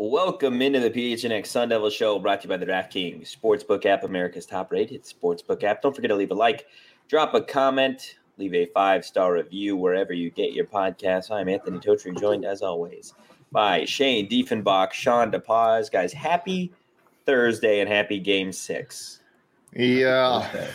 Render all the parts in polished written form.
Welcome into the PHNX Sun Devil Show, brought to you by the DraftKings Sportsbook app, America's top-rated sportsbook app. Don't forget to leave a like, drop a comment, leave a 5-star review wherever you get your podcasts. I'm Anthony Totri, joined as always by Shane Diefenbach, Sean DePaz. Guys, happy Thursday and happy Game 6. Yeah.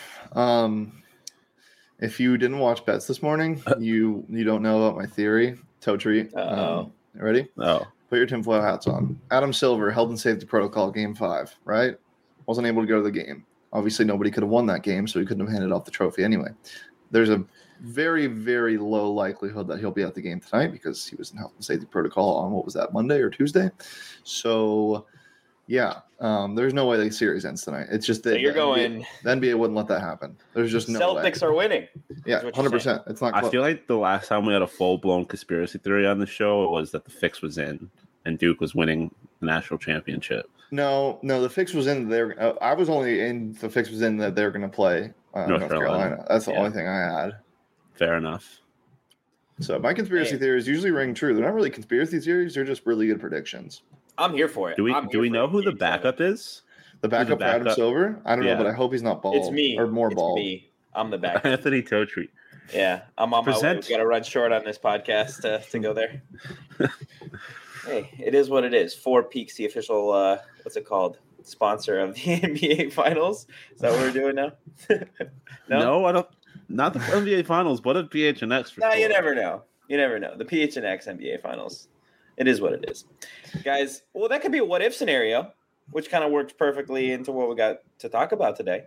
If you didn't watch bets this morning, you don't know about my theory. Totri. Ready? Oh. Put your tinfoil hats on. Adam Silver, Health and Safety Protocol, Game 5, right? Wasn't able to go to the game. Obviously, nobody could have won that game, so he couldn't have handed off the trophy anyway. There's a very, very low likelihood that he'll be at the game tonight because he was in Health and Safety Protocol on, what was that, Monday or Tuesday? So, yeah, there's no way the series ends tonight. It's just that so you're going. The NBA wouldn't let that happen. There's just no way. Celtics are winning. Yeah, 100%. It's not close. I feel like the last time we had a full-blown conspiracy theory on the show was that the fix was in and Duke was winning the national championship. No, the fix was in there. I was only in the fix was in that they're going to play North Carolina. That's the only thing I had. Fair enough. So my conspiracy theories usually ring true. They're not really conspiracy theories. They're just really good predictions. I'm here for it. Do we know who the backup is? The backup for Adam Silver? I don't know, but I hope he's not bald. It's me. Or more bald. It's me. I'm the backup. Anthony Totri. Yeah, I'm on my way. We've got to run short on this podcast to go there. Hey, it is what it is. Four Peaks, the official, what's it called? Sponsor of the NBA Finals. Is that what we're doing now? No, I don't. Not the NBA Finals, but a PHNX. No, you never know. You never know. The PHNX NBA Finals. It is what it is. Guys, well, that could be a what-if scenario, which kind of works perfectly into what we got to talk about today.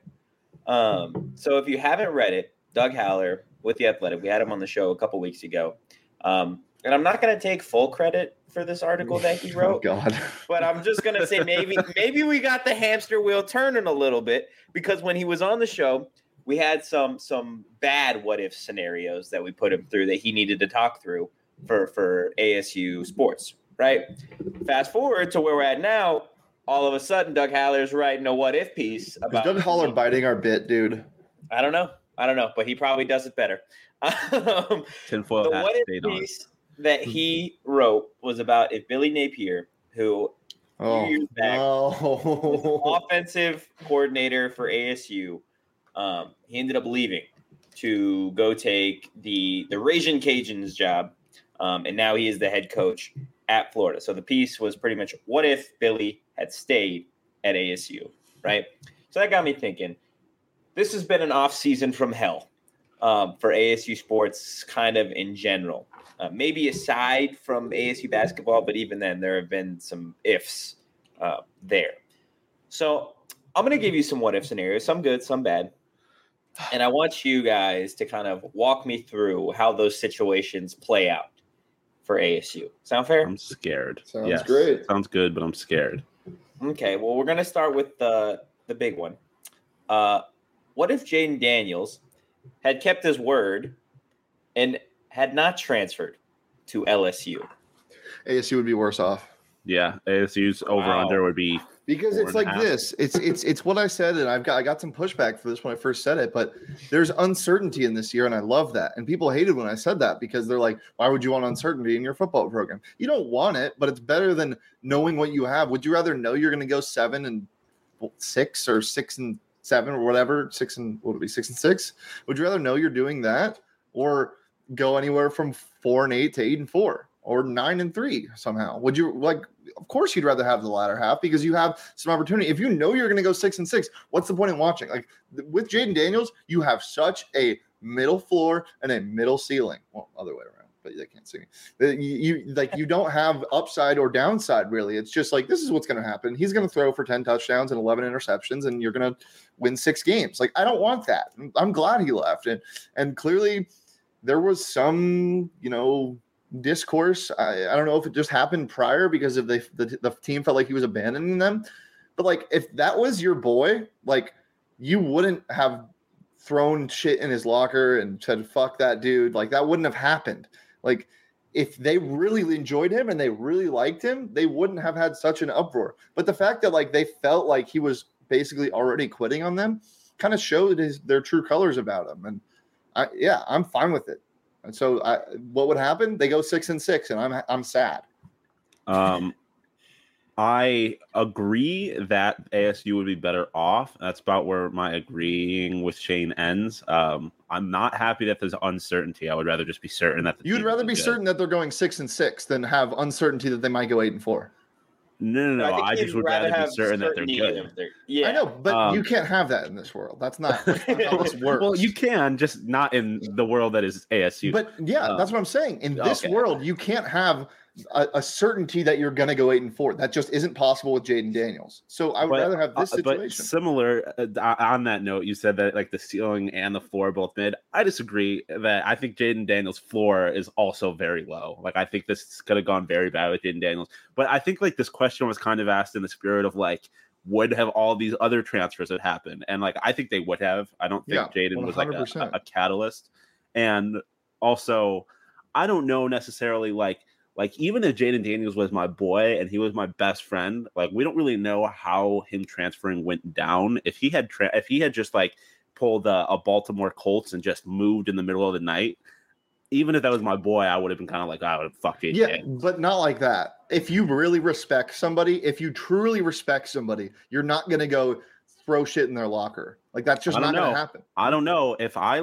So if you haven't read it, Doug Haller with The Athletic, we had him on the show a couple weeks ago. And I'm not going to take full credit for this article that he wrote. Oh, God. But I'm just going to say maybe we got the hamster wheel turning a little bit, because when he was on the show, we had some bad what-if scenarios that we put him through that he needed to talk through for ASU sports, right? Fast forward to where we're at now, all of a sudden Doug Haller's writing a what-if piece about... Is Doug Haller biting our bit, dude? I don't know, but he probably does it better. Tinfoil hat stayed on. That he wrote was about if Billy Napier, who years back was offensive coordinator for ASU, he ended up leaving to go take the Ragin' Cajuns job, and now he is the head coach at Florida. So the piece was pretty much, what if Billy had stayed at ASU, right? So that got me thinking, this has been an off season from hell for ASU sports kind of in general. Maybe aside from ASU basketball, but even then, there have been some ifs there. So I'm going to give you some what-if scenarios, some good, some bad. And I want you guys to kind of walk me through how those situations play out for ASU. Sound fair? I'm scared. Sounds great. Sounds good, but I'm scared. Okay, well, we're going to start with the big one. What if Jaden Daniels had kept his word and had not transferred to LSU? ASU would be worse off. Yeah, ASU's over-under would be because it's like this. It's what I said, and I got some pushback for this when I first said it, but there's uncertainty in this year, and I love that. And people hated when I said that because they're like, why would you want uncertainty in your football program? You don't want it, but it's better than knowing what you have. Would you rather know you're going to go 7-6 or 6-7 or whatever, 6-6? Would you rather know you're doing that or go anywhere from 4-8 to 8-4 or 9-3 somehow? Would you like? Of course, you'd rather have the latter half because you have some opportunity. If you know you're going to go 6-6, what's the point in watching? Like with Jaden Daniels, you have such a middle floor and a middle ceiling. Well, other way around, but they can't see me. You don't have upside or downside really. It's just like this is what's going to happen. He's going to throw for 10 touchdowns and 11 interceptions, and you're going to win 6 games. Like I don't want that. I'm glad he left, and clearly there was some, discourse. I don't know if it just happened prior because of the team felt like he was abandoning them. But like, if that was your boy, like you wouldn't have thrown shit in his locker and said, fuck that dude. Like that wouldn't have happened. Like if they really enjoyed him and they really liked him, they wouldn't have had such an uproar. But the fact that like they felt like he was basically already quitting on them kind of showed their true colors about him. And I'm fine with it. And so what would happen? They go 6-6 and I'm sad. I agree that ASU would be better off. That's about where my agreeing with Shane ends. I'm not happy that there's uncertainty. I would rather just be certain that you'd rather be certain that they're going 6-6 than have uncertainty that they might go 8-4. No. I just would rather be certain that they're good. Yeah, I know, but you can't have that in this world. That's not how this works. Well, you can, just not in the world that is ASU. But yeah, that's what I'm saying. In this world, you can't have a certainty that you're going to go 8-4. That just isn't possible with Jayden Daniels. So I would rather have this situation. But similar on that note, you said that like the ceiling and the floor are both mid. I disagree. That I think Jayden Daniels' floor is also very low. Like I think this could have gone very bad with Jayden Daniels. But I think like this question was kind of asked in the spirit of like, would have all these other transfers that happened? And like I think they would have. I don't think Jayden was like a catalyst. And also, I don't know necessarily like even if Jayden Daniels was my boy and he was my best friend, like we don't really know how him transferring went down. If he had just like pulled a Baltimore Colts and just moved in the middle of the night, even if that was my boy, I would have been kind of like, I would have fucked Jayden Daniels. But not like that. If you really respect somebody, if you truly respect somebody, you're not going to go throw shit in their locker. Like that's just not going to happen. I don't know if I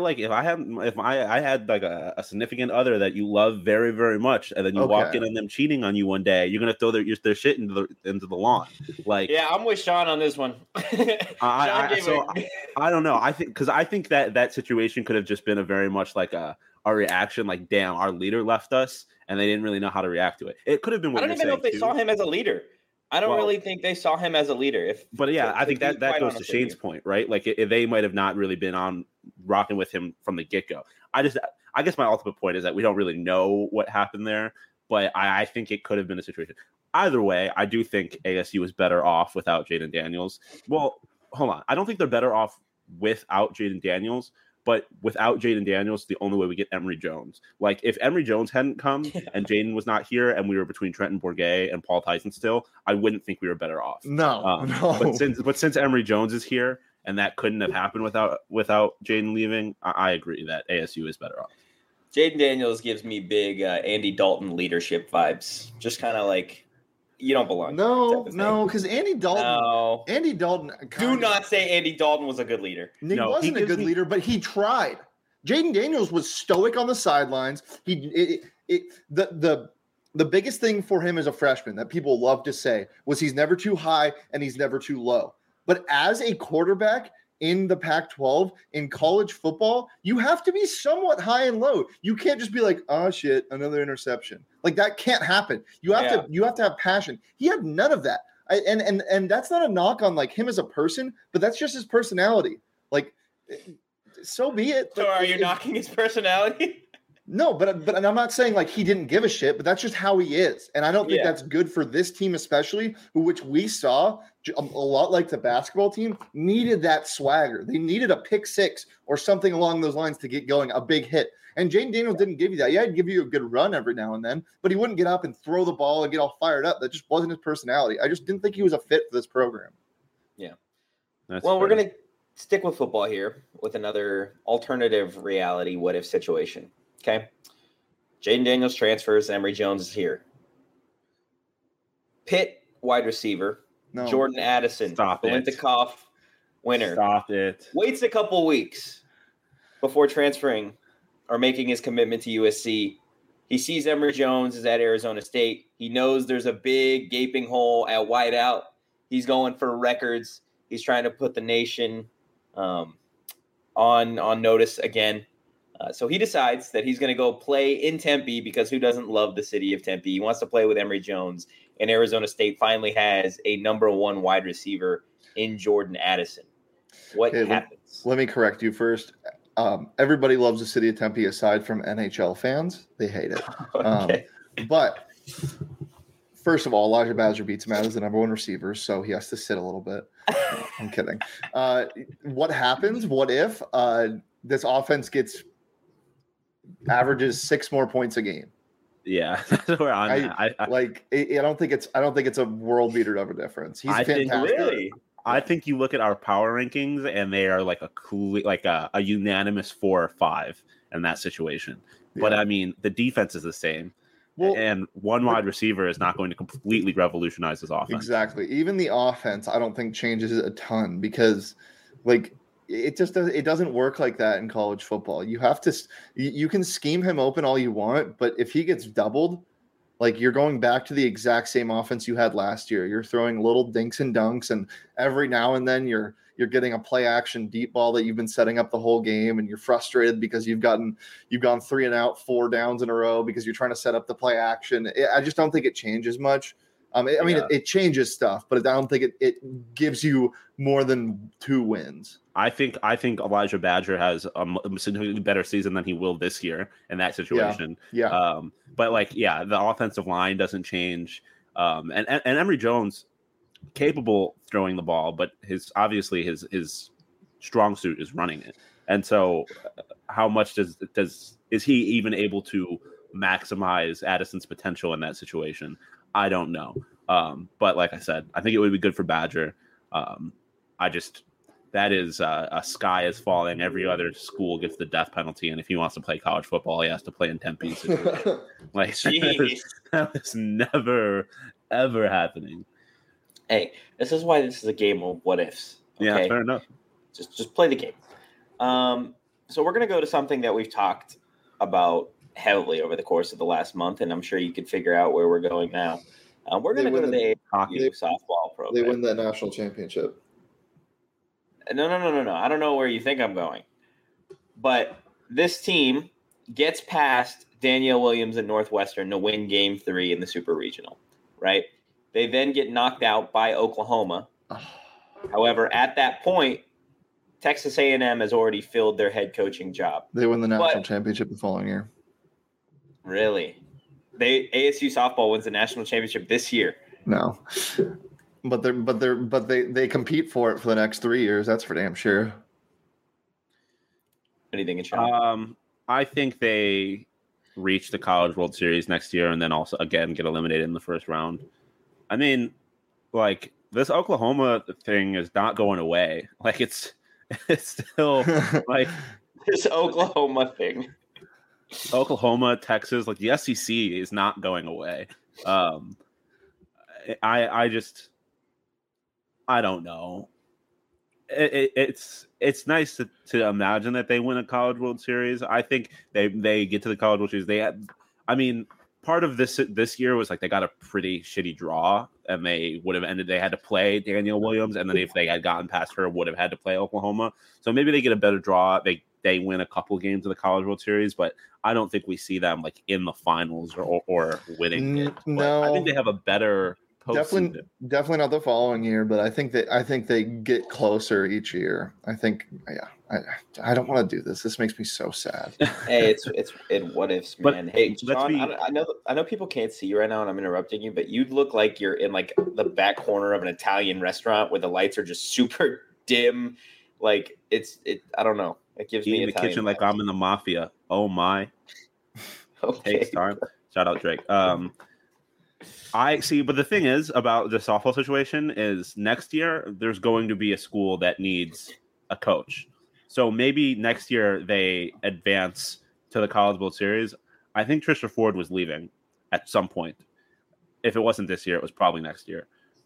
had like a significant other that you love very, very much, and then you walk in on them cheating on you one day, you're going to throw their shit into the lawn. Like, yeah, I'm with Sean on this one. I don't know. I think that situation could have just been a very much like a reaction, like, damn, our leader left us, and they didn't really know how to react to it. It could have been. I don't even know if they saw him as a leader. I don't really think they saw him as a leader. I think that goes to Shane's point, right? Like if they might have not really been on rocking with him from the get-go. I guess my ultimate point is that we don't really know what happened there, but I think it could have been a situation. Either way, I do think ASU is better off without Jayden Daniels. Well, hold on. I don't think they're better off without Jayden Daniels. But without Jayden Daniels, the only way we get Emory Jones. Like if Emory Jones hadn't come and Jayden was not here, and we were between Trenton Bourguet and Paul Tyson still, I wouldn't think we were better off. No. But since Emory Jones is here, and that couldn't have happened without Jayden leaving, I agree that ASU is better off. Jayden Daniels gives me big Andy Dalton leadership vibes. Just kind of like, you don't belong. No, because Andy Dalton. No. Andy Dalton. Do not say Andy Dalton was a good leader. He wasn't a good leader, but he tried. Jayden Daniels was stoic on the sidelines. The biggest thing for him as a freshman that people love to say was he's never too high and he's never too low. But as a quarterback in the Pac-12 in college football, you have to be somewhat high and low. You can't just be like, oh shit, another interception. Like that can't happen. You have to have passion. He had none of that. And that's not a knock on like him as a person, but that's just his personality. Like, so be it. So are you knocking his personality? No, but I'm not saying like he didn't give a shit, but that's just how he is. And I don't think that's good for this team, especially which we saw a lot like the basketball team needed that swagger. They needed a pick six or something along those lines to get going, a big hit. And Jayden Daniels didn't give you that. Yeah, he'd give you a good run every now and then, but he wouldn't get up and throw the ball and get all fired up. That just wasn't his personality. I just didn't think he was a fit for this program. Yeah. We're going to stick with football here with another alternative reality what-if situation. Okay. Jayden Daniels transfers. Emory Jones is here. Pitt wide receiver. No. Jordan Addison. Biletnikoff winner. Stop it. Waits a couple weeks before transferring or making his commitment to USC. He sees Emory Jones is at Arizona State. He knows there's a big gaping hole at wideout. He's going for records. He's trying to put the nation on notice again. So he decides that he's going to go play in Tempe because who doesn't love the city of Tempe? He wants to play with Emory Jones, and Arizona State finally has a number one wide receiver in Jordan Addison. What happens? Let me correct you first. Everybody loves the city of Tempe aside from NHL fans. They hate it. Okay. But first of all, Elijah Badger beats him out as the number one receiver, so he has to sit a little bit. No, I'm kidding. What happens? What if this offense averages 6 more points a game? Yeah, that's where I don't think it's a world beater of a difference. He's fantastic. I think you look at our power rankings and they are like a unanimous 4 or 5 in that situation. Yeah. But I mean, the defense is the same. and one wide receiver is not going to completely revolutionize his offense. Exactly. Even the offense, I don't think changes a ton because, like, it doesn't work like that in college football. You have to, you can scheme him open all you want, but if he gets doubled, like, you're going back to the exact same offense you had last year. You're throwing little dinks and dunks, and every now and then you're getting a play action deep ball that you've been setting up the whole game, and you're frustrated because you've gone 3 and out, 4 downs in a row because you're trying to set up the play action. I just don't think it changes much. It changes stuff, but I don't think it gives you more than 2 wins. I think Elijah Badger has a significantly better season than he will this year in that situation. Yeah. But the offensive line doesn't change. And Emory Jones, capable throwing the ball, but his strong suit is running it. And so, how much is he even able to maximize Addison's potential in that situation? I don't know. But like I said, I think it would be good for Badger. That is a sky is falling. Every other school gets the death penalty, and if he wants to play college football, he has to play in Tempe. Like, that is never, ever happening. Hey, this is why this is a game of what ifs. Okay? Yeah, fair enough. Just play the game. So we're going to go to something that we've talked about heavily over the course of the last month, and I'm sure you can figure out where we're going now. We're going to go to the hockey softball program. They win that national championship. No. I don't know where you think I'm going. But this team gets past Danielle Williams and Northwestern to win Game 3 in the Super Regional, right? They then get knocked out by Oklahoma. However, at that point, Texas A&M has already filled their head coaching job. They win the national championship the following year. Really? ASU softball wins the national championship this year. No. But they compete for it for the next 3 years. That's for damn sure. What do you think, Sean? I think they reach the College World Series next year and then also again get eliminated in the first round. I mean, like, this Oklahoma thing is not going away. Like, it's still like this Oklahoma thing. Oklahoma, Texas, like the SEC is not going away. I don't know. It's nice to imagine that they win a College World Series. I think they get to the College World Series. Part of this year was like they got a pretty shitty draw, and they would have ended. They had to play Danielle Williams, and then if they had gotten past her, would have had to play Oklahoma. So maybe they get a better draw. They win a couple games of the College World Series, but I don't think we see them like in the finals or winning it. No, I think they have a better. Definitely not the following year, but I think they get closer each year. I think, I don't want to do this. This makes me so sad. Hey, it's what ifs, man. Hey, John, I know people can't see you right now, and I'm interrupting you, but you look like you're in like the back corner of an Italian restaurant where the lights are just super dim. Like I don't know. It gives me in the kitchen like I'm in the mafia. Oh my. Okay. Takes time. Shout out Drake. I see, but the thing is about the softball situation is next year there's going to be a school that needs a coach. So maybe next year they advance to the College World Series. I think Trisha Ford was leaving at some point. If it wasn't this year, it was probably next year.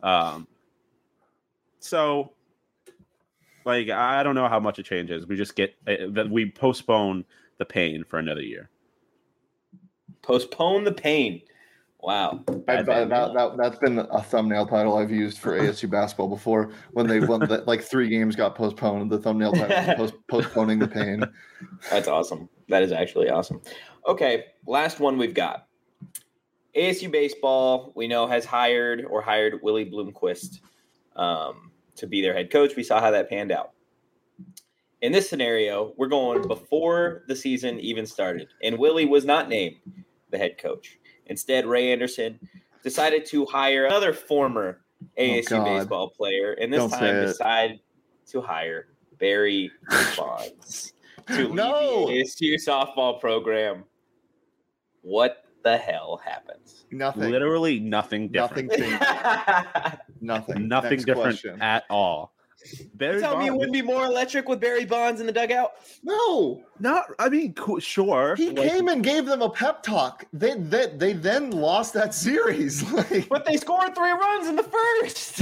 So, like, I don't know how much it changes. We just we postpone the pain for another year. Postpone the pain. Wow. That's been a thumbnail title I've used for ASU basketball before. When they won, like 3 games got postponed. The thumbnail title was postponing the pain. That's awesome. That is actually awesome. Okay, last one we've got. ASU baseball, we know, has hired Willie Bloomquist to be their head coach. We saw how that panned out. In this scenario, we're going before the season even started, and Willie was not named the head coach. Instead, Ray Anderson decided to hire another former ASU baseball player, and this time decided to hire Barry Bonds to lead the ASU softball program. What the hell happens? Nothing. Literally nothing different. Nothing different at all. Barry Tell me it wouldn't be more electric with Barry Bonds in the dugout? No. I mean, cool, sure. He came and gave them a pep talk. They then lost that series. But they scored 3 runs in the first.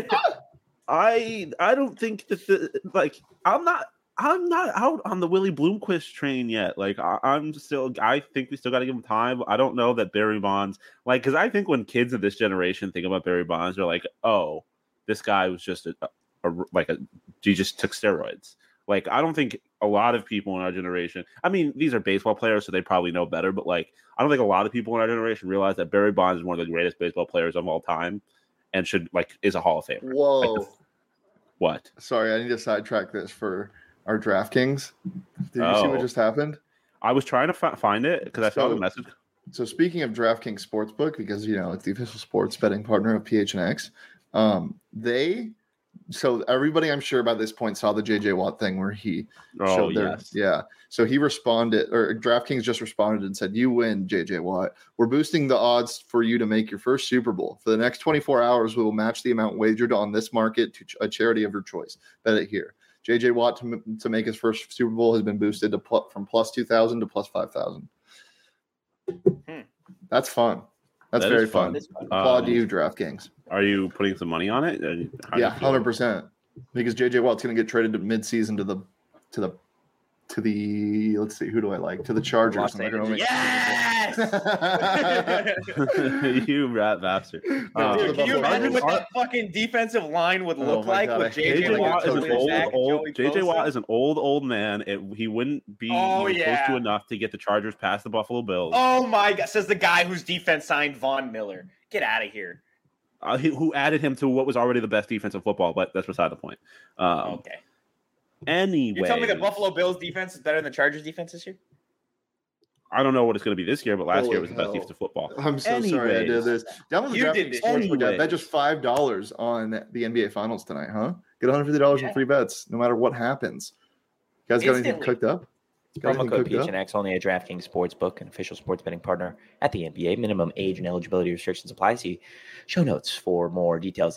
I don't think that I'm not out on the Willie Bloomquist train yet. Like I think we still got to give him time. I don't know that Barry Bonds, because I think when kids of this generation think about Barry Bonds, they're like, oh, this guy was just he just took steroids. Like, I don't think a lot of people in our generation, I mean, these are baseball players, so they probably know better, but I don't think a lot of people in our generation realize that Barry Bonds is one of the greatest baseball players of all time and is a Hall of Famer. Whoa. What? Sorry, I need to sidetrack this for our DraftKings. Did you see what just happened? I was trying to find it because I saw the message. So speaking of DraftKings Sportsbook, because, it's the official sports betting partner of PHNX, so everybody, I'm sure by this point, saw the JJ Watt thing where he showed their, yeah. So he responded, or DraftKings just responded and said, "You win, JJ Watt. We're boosting the odds for you to make your first Super Bowl. For the next 24 hours, we will match the amount wagered on this market to a charity of your choice. Bet it here. JJ Watt to make his first Super Bowl has been boosted from plus 2,000 to plus 5,000. That's fun. That's very fun. Applaud to you, DraftKings. Are you putting some money on it? Yeah, 100%. Because JJ Watt's going to get traded to midseason to the let's see, who do I like? To the Chargers. Yes! You rat bastard. Dude, can you imagine what that fucking defensive line would look like with JJ Watt is JJ Watt is an old man. He wouldn't be close to enough to get the Chargers past the Buffalo Bills. Oh my God, says the guy whose defense signed Von Miller. Get out of here. Who added him to what was already the best defense of football, but that's beside the point. Okay. Anyway, you tell me the Buffalo Bills defense is better than the Chargers defense this year? I don't know what it's going to be this year, but last year was the best defense of football. I'm so sorry I did this. Download the DraftKings Sportsbook app. Bet just $5 on the NBA Finals tonight, huh? Get $150 in free bets, no matter what happens. You guys got anything cooked up? Promo code PHNX only at DraftKings Sportsbook, an official sports betting partner at the NBA. Minimum age and eligibility restrictions apply. See show notes for more details.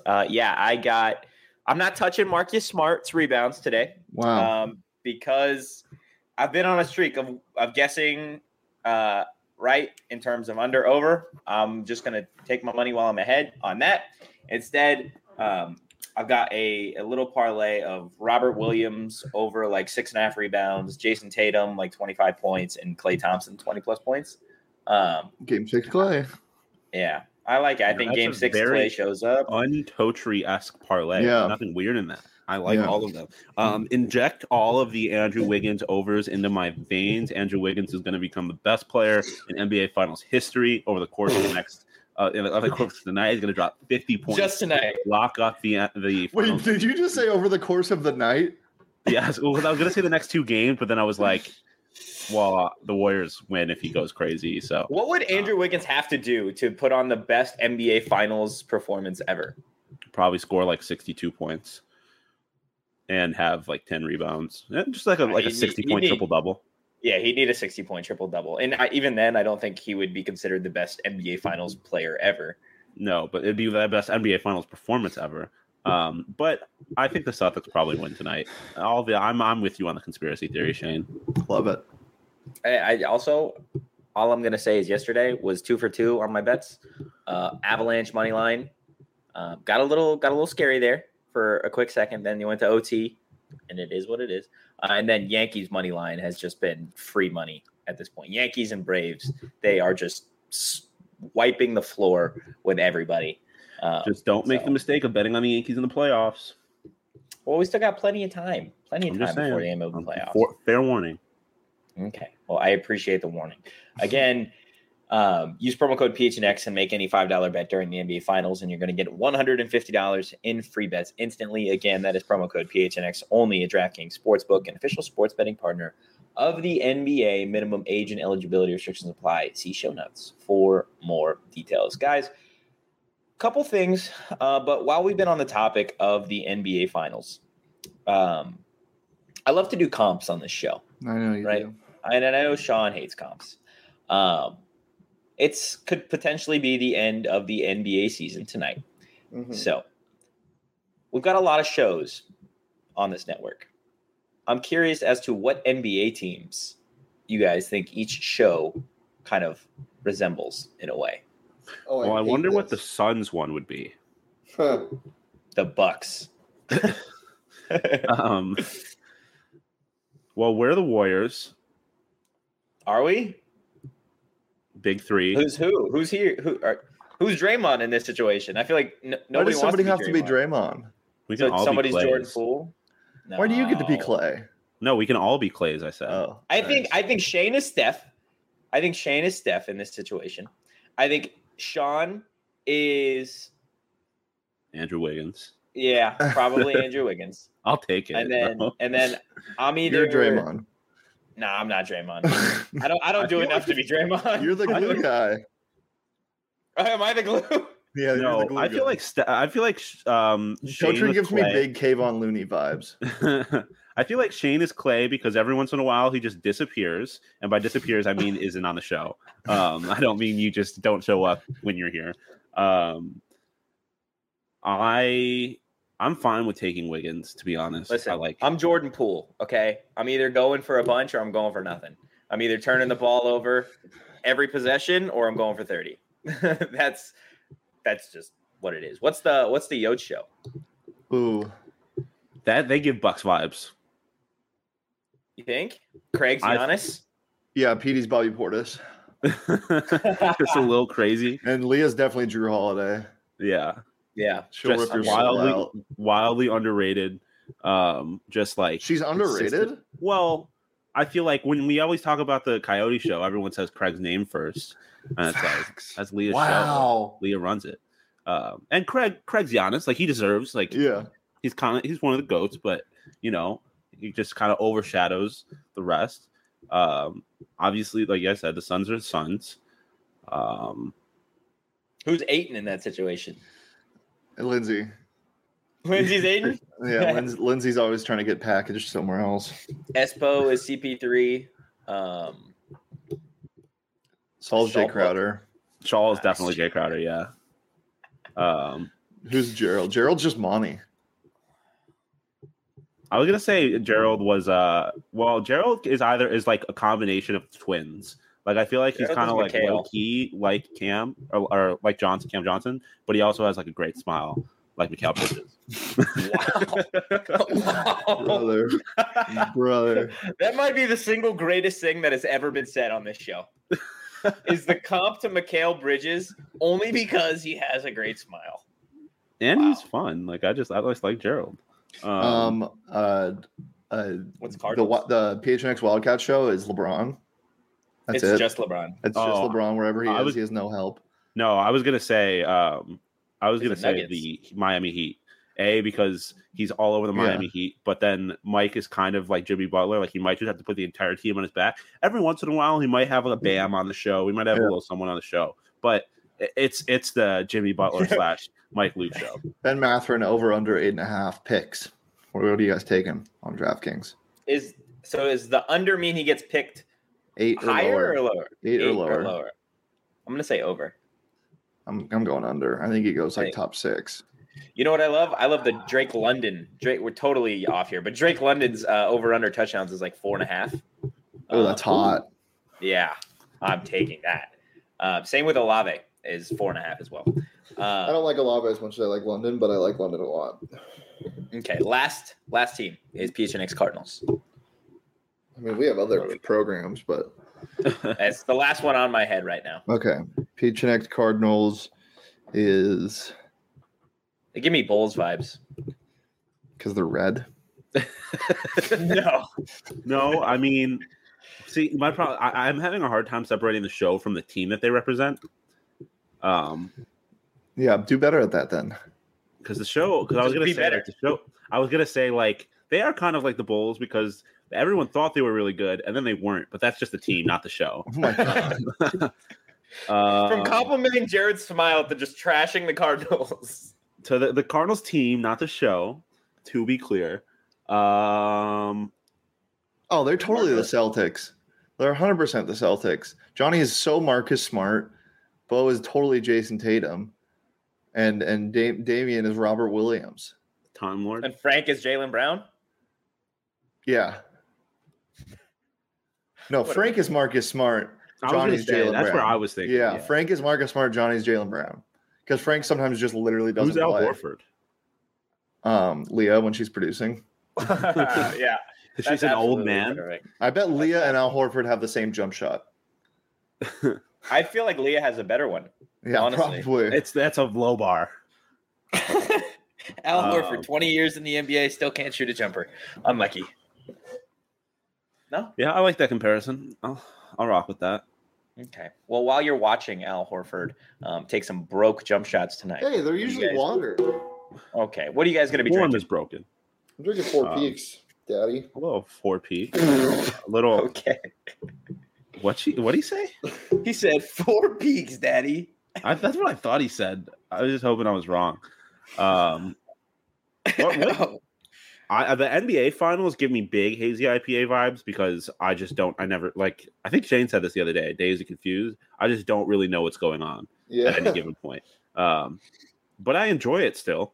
I'm not touching Marcus Smart's rebounds today. Wow. Because I've been on a streak of guessing right in terms of under over. I'm just going to take my money while I'm ahead on that. Instead, I've got a little parlay of Robert Williams over 6.5 rebounds, Jason Tatum 25 points, and Klay Thompson 20 plus points. Game 6 Klay. Yeah. I like it. I think Game 6 Klay shows up. Untotri-esque parlay. Yeah. Nothing weird in that. I like all of them. Inject all of the Andrew Wiggins overs into my veins. Andrew Wiggins is going to become the best player in NBA Finals history over the course of the next tonight. He's going to drop 50 points. Just tonight. Lock up the Wait, did you just say over the course of the night? Yes. Well, I was going to say the next 2 games, but then I was like, well, the Warriors win if he goes crazy. So, what would Andrew Wiggins have to do to put on the best NBA Finals performance ever? Probably score 62 points and have 10 rebounds, just a 60-point triple double. Yeah, he'd need a 60-point triple double, and even then, I don't think he would be considered the best NBA Finals player ever. No, but it'd be the best NBA Finals performance ever. But I think the Celtics probably win tonight. I'm with you on the conspiracy theory, Shane. Love it. I also, all I'm gonna say is yesterday was 2 for 2 on my bets. Avalanche money line got a little scary there for a quick second. Then you went to OT, and it is what it is. And then Yankees money line has just been free money at this point. Yankees and Braves, they are just wiping the floor with everybody. Just don't make the mistake of betting on the Yankees in the playoffs. Well, we still got plenty of time before the end of the playoffs. Fair warning. Okay. Well, I appreciate the warning. Again, use promo code PHNX and make any $5 bet during the NBA Finals, and you're going to get $150 in free bets instantly. Again, that is promo code PHNX only at DraftKings Sportsbook, an official sports betting partner of the NBA. Minimum age and eligibility restrictions apply. See show notes for more details. Guys, couple things, but while we've been on the topic of the NBA Finals, I love to do comps on this show. I know you do. And I know Sean hates comps. It could potentially be the end of the NBA season tonight. Mm-hmm. So we've got a lot of shows on this network. I'm curious as to what NBA teams you guys think each show kind of resembles in a way. Oh, I wonder what the Suns one would be. Huh. The Bucks. Well, we're the Warriors. Are we? Big three. Who's who? Who's here? Who's Draymond in this situation? I feel like nobody wants to be Draymond. Why does somebody have to be Draymond? We can all somebody's be Clays. Jordan Poole. No. Why do you get to be Clay? No, we can all be Clay, as I said. Oh, I think Shane is Steph. I think Shane is Steph in this situation. I think Sean is Andrew Wiggins. Yeah, probably Andrew Wiggins. I'll take it. And then I'm either You're Draymond. No, I'm not Draymond. I don't do enough to be Draymond. You're the glue guy. Am I the glue? Yeah, no, the glue I feel like Coaching gives me big Kayvon Looney vibes. I feel like Shane is Clay because every once in a while he just disappears, and by disappears I mean isn't on the show. I don't mean you just don't show up when you're here. I'm fine with taking Wiggins, to be honest. Listen, I'm Jordan Poole, okay? I'm either going for a bunch or I'm going for nothing. I'm either turning the ball over every possession or I'm going for 30. That's just what it is. What's the Yotes show? Ooh. That they give Bucks vibes. You think? Craig's Giannis? Yeah, Petey's Bobby Portis. Just a little crazy. And Leah's definitely Drew Holiday. Yeah. Yeah. She'll just rip your wildly underrated. Just like she's underrated. Well, I feel like when we always talk about the Coyote show, everyone says Craig's name first. And it's like that's Leah's show. Leah runs it. And Craig's Giannis. Like he deserves, he's one of the GOATs, but he just kind of overshadows the rest. Obviously, like I said, the Suns are the Suns. Who's Ayton in that situation? Lindsay. Lindsay's Ayton? Yeah, Lindsay's always trying to get packaged somewhere else. Espo is CP3. Saul's Jay Crowder. Shaw is definitely Jay Crowder, yeah. Who's Gerald? Gerald's just Monty. I was gonna say Gerald was Gerald is like a combination of twins. Like I feel like he's kind of like low key like Cam or like Cam Johnson, but he also has like a great smile like Mikal Bridges. Wow. Brother. That might be the single greatest thing that has ever been said on this show. Is the comp to Mikal Bridges only because he has a great smile. And he's fun. Like I just like Gerald. What's Cardinals? The PHNX Wildcat show is LeBron. That's it. It's just LeBron. It's just LeBron wherever he is. He has no help. No, I was gonna say the Miami Heat. Because he's all over the Miami Heat, but then Mike is kind of like Jimmy Butler. Like he might just have to put the entire team on his back. Every once in a while, he might have a Bam on the show. We might have a little someone on the show, but it's the Jimmy Butler / Mike Luke show. Ben Matherin over under 8.5 picks. What are you guys taking on DraftKings? Is the under mean he gets picked 8 or higher lower? or lower? 8 or lower. I'm gonna say over. I'm going under. I think he goes like top 6. You know what I love? I love the Drake London. We're totally off here, but Drake London's over under touchdowns is like 4.5. Oh, that's hot. Yeah, I'm taking that. Same with Olave is 4.5 as well. I don't like Olave as much as I like London, but I like London a lot. Okay, last team is PHNX Cardinals. I mean, we have other programs, but that's the last one on my head right now. Okay, PHNX Cardinals is. They give me Bulls vibes. Because they're red? No. I mean, see, my problem. I'm having a hard time separating the show from the team that they represent. Yeah, do better at that then. Because I was gonna say like, the show. I was gonna say like they are kind of like the Bulls because everyone thought they were really good and then they weren't. But that's just the team, not the show. Oh my god. From complimenting Jared's smile to just trashing the Cardinals. To the Cardinals team, not the show, to be clear. They're totally the Celtics. They're 100% the Celtics. Johnny is so Marcus Smart. Bo is totally Jason Tatum. And Damian is Robert Williams. Time Lord. And Frank is Jaylen Brown? Yeah. No, Frank is Marcus Smart. Johnny's Jaylen Brown. That's where I was thinking. Yeah, Frank is Marcus Smart. Johnny's Jaylen Brown. Because Frank sometimes just literally doesn't play. Who's Al Horford? Leah when she's producing. Yeah. She's an old man. Correct. I bet Leah and Al Horford have the same jump shot. I feel like Leah has a better one. Yeah, honestly. Probably. That's a low bar. Al Horford, 20 years in the NBA, still can't shoot a jumper. Unlucky. No? Yeah, I like that comparison. I'll rock with that. Okay. Well, while you're watching Al Horford take some broke jump shots tonight. Hey, they're usually water. Okay. What are you guys going to be Warm drinking? is broken. I'm drinking 4 Peaks, Daddy. A little 4 Peaks. A little. Okay. What'd he say? He said 4 Peaks, Daddy. That's what I thought he said. I was just hoping I was wrong. What? The NBA finals give me big hazy IPA vibes because I think Shane said this the other day, Days of Confused. I just don't really know what's going on at any given point. But I enjoy it still.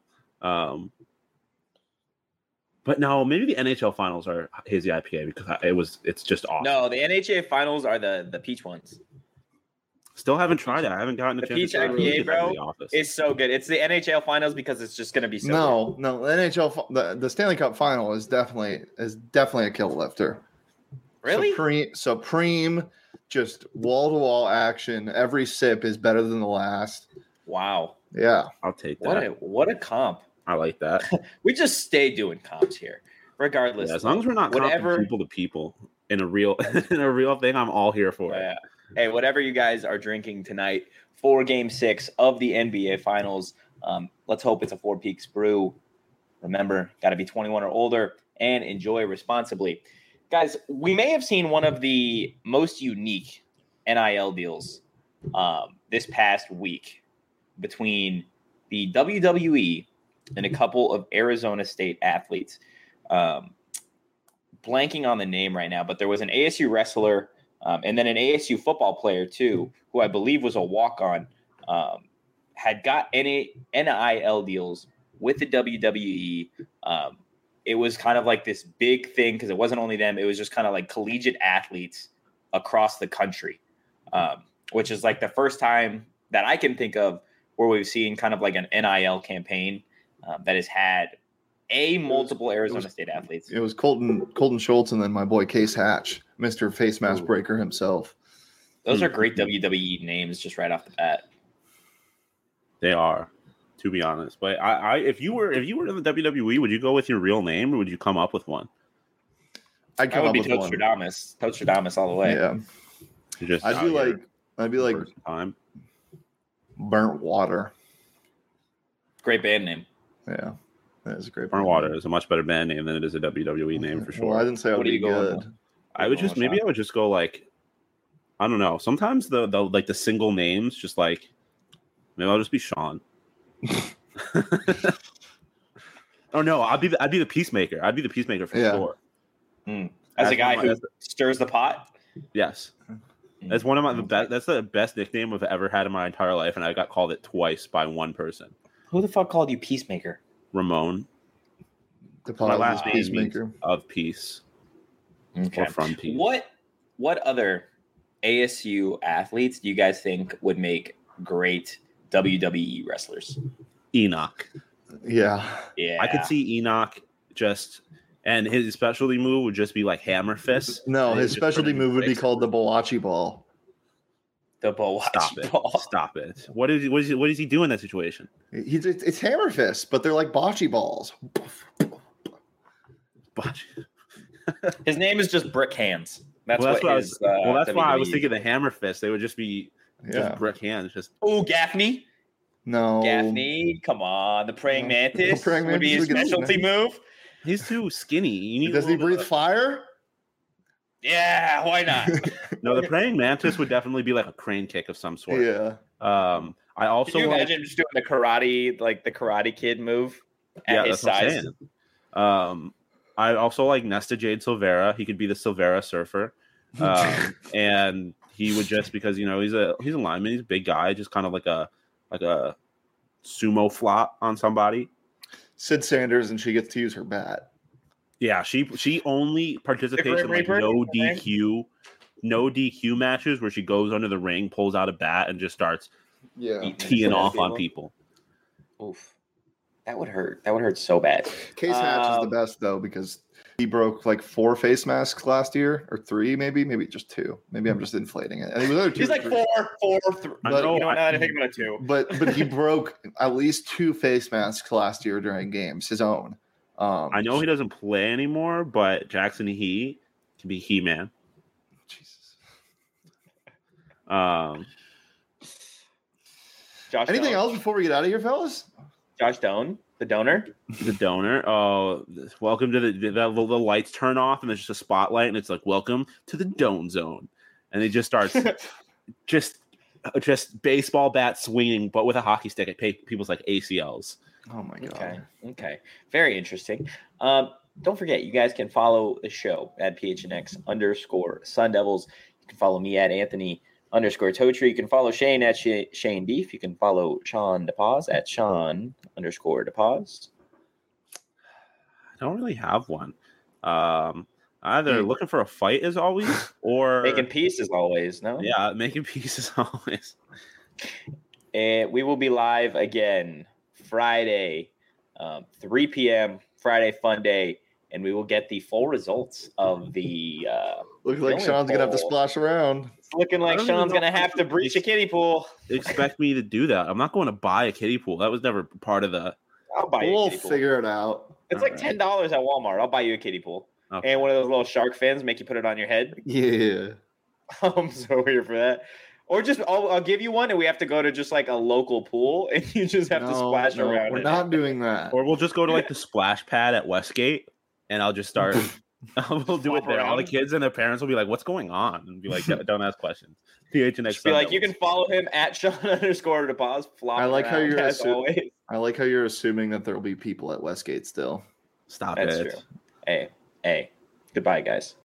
But no, maybe the NHL finals are hazy IPA because it's just awesome. No, the NHL finals are the peach ones. Still haven't tried it. I haven't gotten a chance peach to try IPA, it. bro. It's so good. It's the NHL finals because it's just going to be so good. No, the NHL the Stanley Cup final is definitely a kill lifter. Really? Supreme, just wall-to-wall action. Every sip is better than the last. Wow. Yeah. I'll take that. What a comp. I like that. We just stay doing comps here, regardless. Yeah, as long as we're not comping people to people in a real thing, I'm all here for it. Yeah. Hey, whatever you guys are drinking tonight for Game 6 of the NBA Finals, let's hope it's a 4 Peaks brew. Remember, got to be 21 or older and enjoy responsibly. Guys, we may have seen one of the most unique NIL deals this past week between the WWE and a couple of Arizona State athletes. Blanking on the name right now, but there was an ASU wrestler and then an ASU football player, too, who I believe was a walk-on, had got NIL deals with the WWE. It was kind of like this big thing because it wasn't only them. It was just kind of like collegiate athletes across the country, which is like the first time that I can think of where we've seen kind of like an NIL campaign that has had multiple Arizona State athletes. It was Colton Schultz and then my boy Case Hatch, Mr. Face Mask Breaker himself. Those are great WWE names just right off the bat. They are, to be honest. But if you were in the WWE, would you go with your real name or would you come up with one? I'd come up with one. Toadstradamus all the way. Yeah. I'd be like time. Burnt Water. Great band name. Yeah. That is a great. Burnt Water is a much better band name than it is a WWE name for sure. Well, I didn't say I would be good. I would just go like, I don't know. Sometimes the single names just like, maybe I'll just be Sean. Oh no, I'd be the Peacemaker. I'd be the Peacemaker for sure. As a guy who stirs the pot. Yes. That's one of my best. That's the best nickname I've ever had in my entire life, and I got called it twice by one person. Who the fuck called you Peacemaker? Ramon. My last Peacemaker of peace. Okay. Or from peace. What other ASU athletes do you guys think would make great WWE wrestlers? Enoch. Yeah. I could see Enoch and his specialty move would just be like hammer fist. No, his specialty move would be called the Boachi Ball. The Boachi Ball. Stop it. What does he do in that situation? It's hammer fists, but they're like bocce balls. His name is just Brick Hands. That's why I was thinking the hammer fist. They would just be just brick hands. Gaffney. No. Gaffney, come on. The Praying Mantis would be his specialty move. He's too skinny. Does he breathe fire? Yeah, why not? No, the Praying Mantis would definitely be like a crane kick of some sort. Yeah. I also Can you imagine just doing the Karate Kid move at his size? I also like Nesta Jade Silvera. He could be the Silvera Surfer, and he would just because he's a lineman. He's a big guy, just kind of like a sumo flop on somebody. Sid Sanders, and she gets to use her bat. Yeah, she only participates in like no DQ matches where she goes under the ring, pulls out a bat, and just starts teeing off on people. Oof. That would hurt. That would hurt so bad. Case Hatch is the best, though, because he broke like 4 face masks last year, or 3, maybe just 2. Maybe I'm just inflating it. And he's like 4, 3. But you know, now that I think about it, 2. But he broke at least 2 face masks last year during games, his own. I know he doesn't play anymore, but Jackson He can be He-Man. Jesus. Josh Anything Doan. else before we get out of here, fellas? Josh Doan, the donor. The donor. Oh, welcome to the lights turn off and there's just a spotlight and it's like, welcome to the Doan Zone. And it just starts just baseball bat swinging, but with a hockey stick at people's like ACLs. Oh my God. Okay. Very interesting. Don't forget, you guys can follow the show at PHNX_Sun Devils. You can follow me at Anthony_Totri. You can follow Shane at Shane Beef. You can follow Sean DePaz at Sean_DePaz. I don't really have one. Either looking for a fight as always, or making peace as always. No, yeah, making peace as always. And we will be live again Friday, 3 p.m. Friday Fun Day, and we will get the full results of the. Looks like Sean's gonna have to splash around. It's looking like Sean's gonna have to breach a kiddie pool. Expect me to do that? I'm not going to buy a kiddie pool. That was never part of the. I'll buy you a kiddie pool. We'll figure it out. It's like $10 at Walmart. I'll buy you a kiddie pool. Okay. And one of those little shark fins, make you put it on your head. Yeah. I'm so here for that. Or just I'll give you one, and we have to go to just like a local pool, and you just have to splash around. We're not doing that. Or we'll just go to like the splash pad at Westgate, and I'll just start. We'll do it there. All the kids and their parents will be like, "What's going on?" And be like, "Don't ask questions." PHNX. Be like, you can follow him at Sean_DePaz. I like how you're assuming. I like how you're assuming that there will be people at Westgate still. Stop That's it. True. Hey. Goodbye, guys.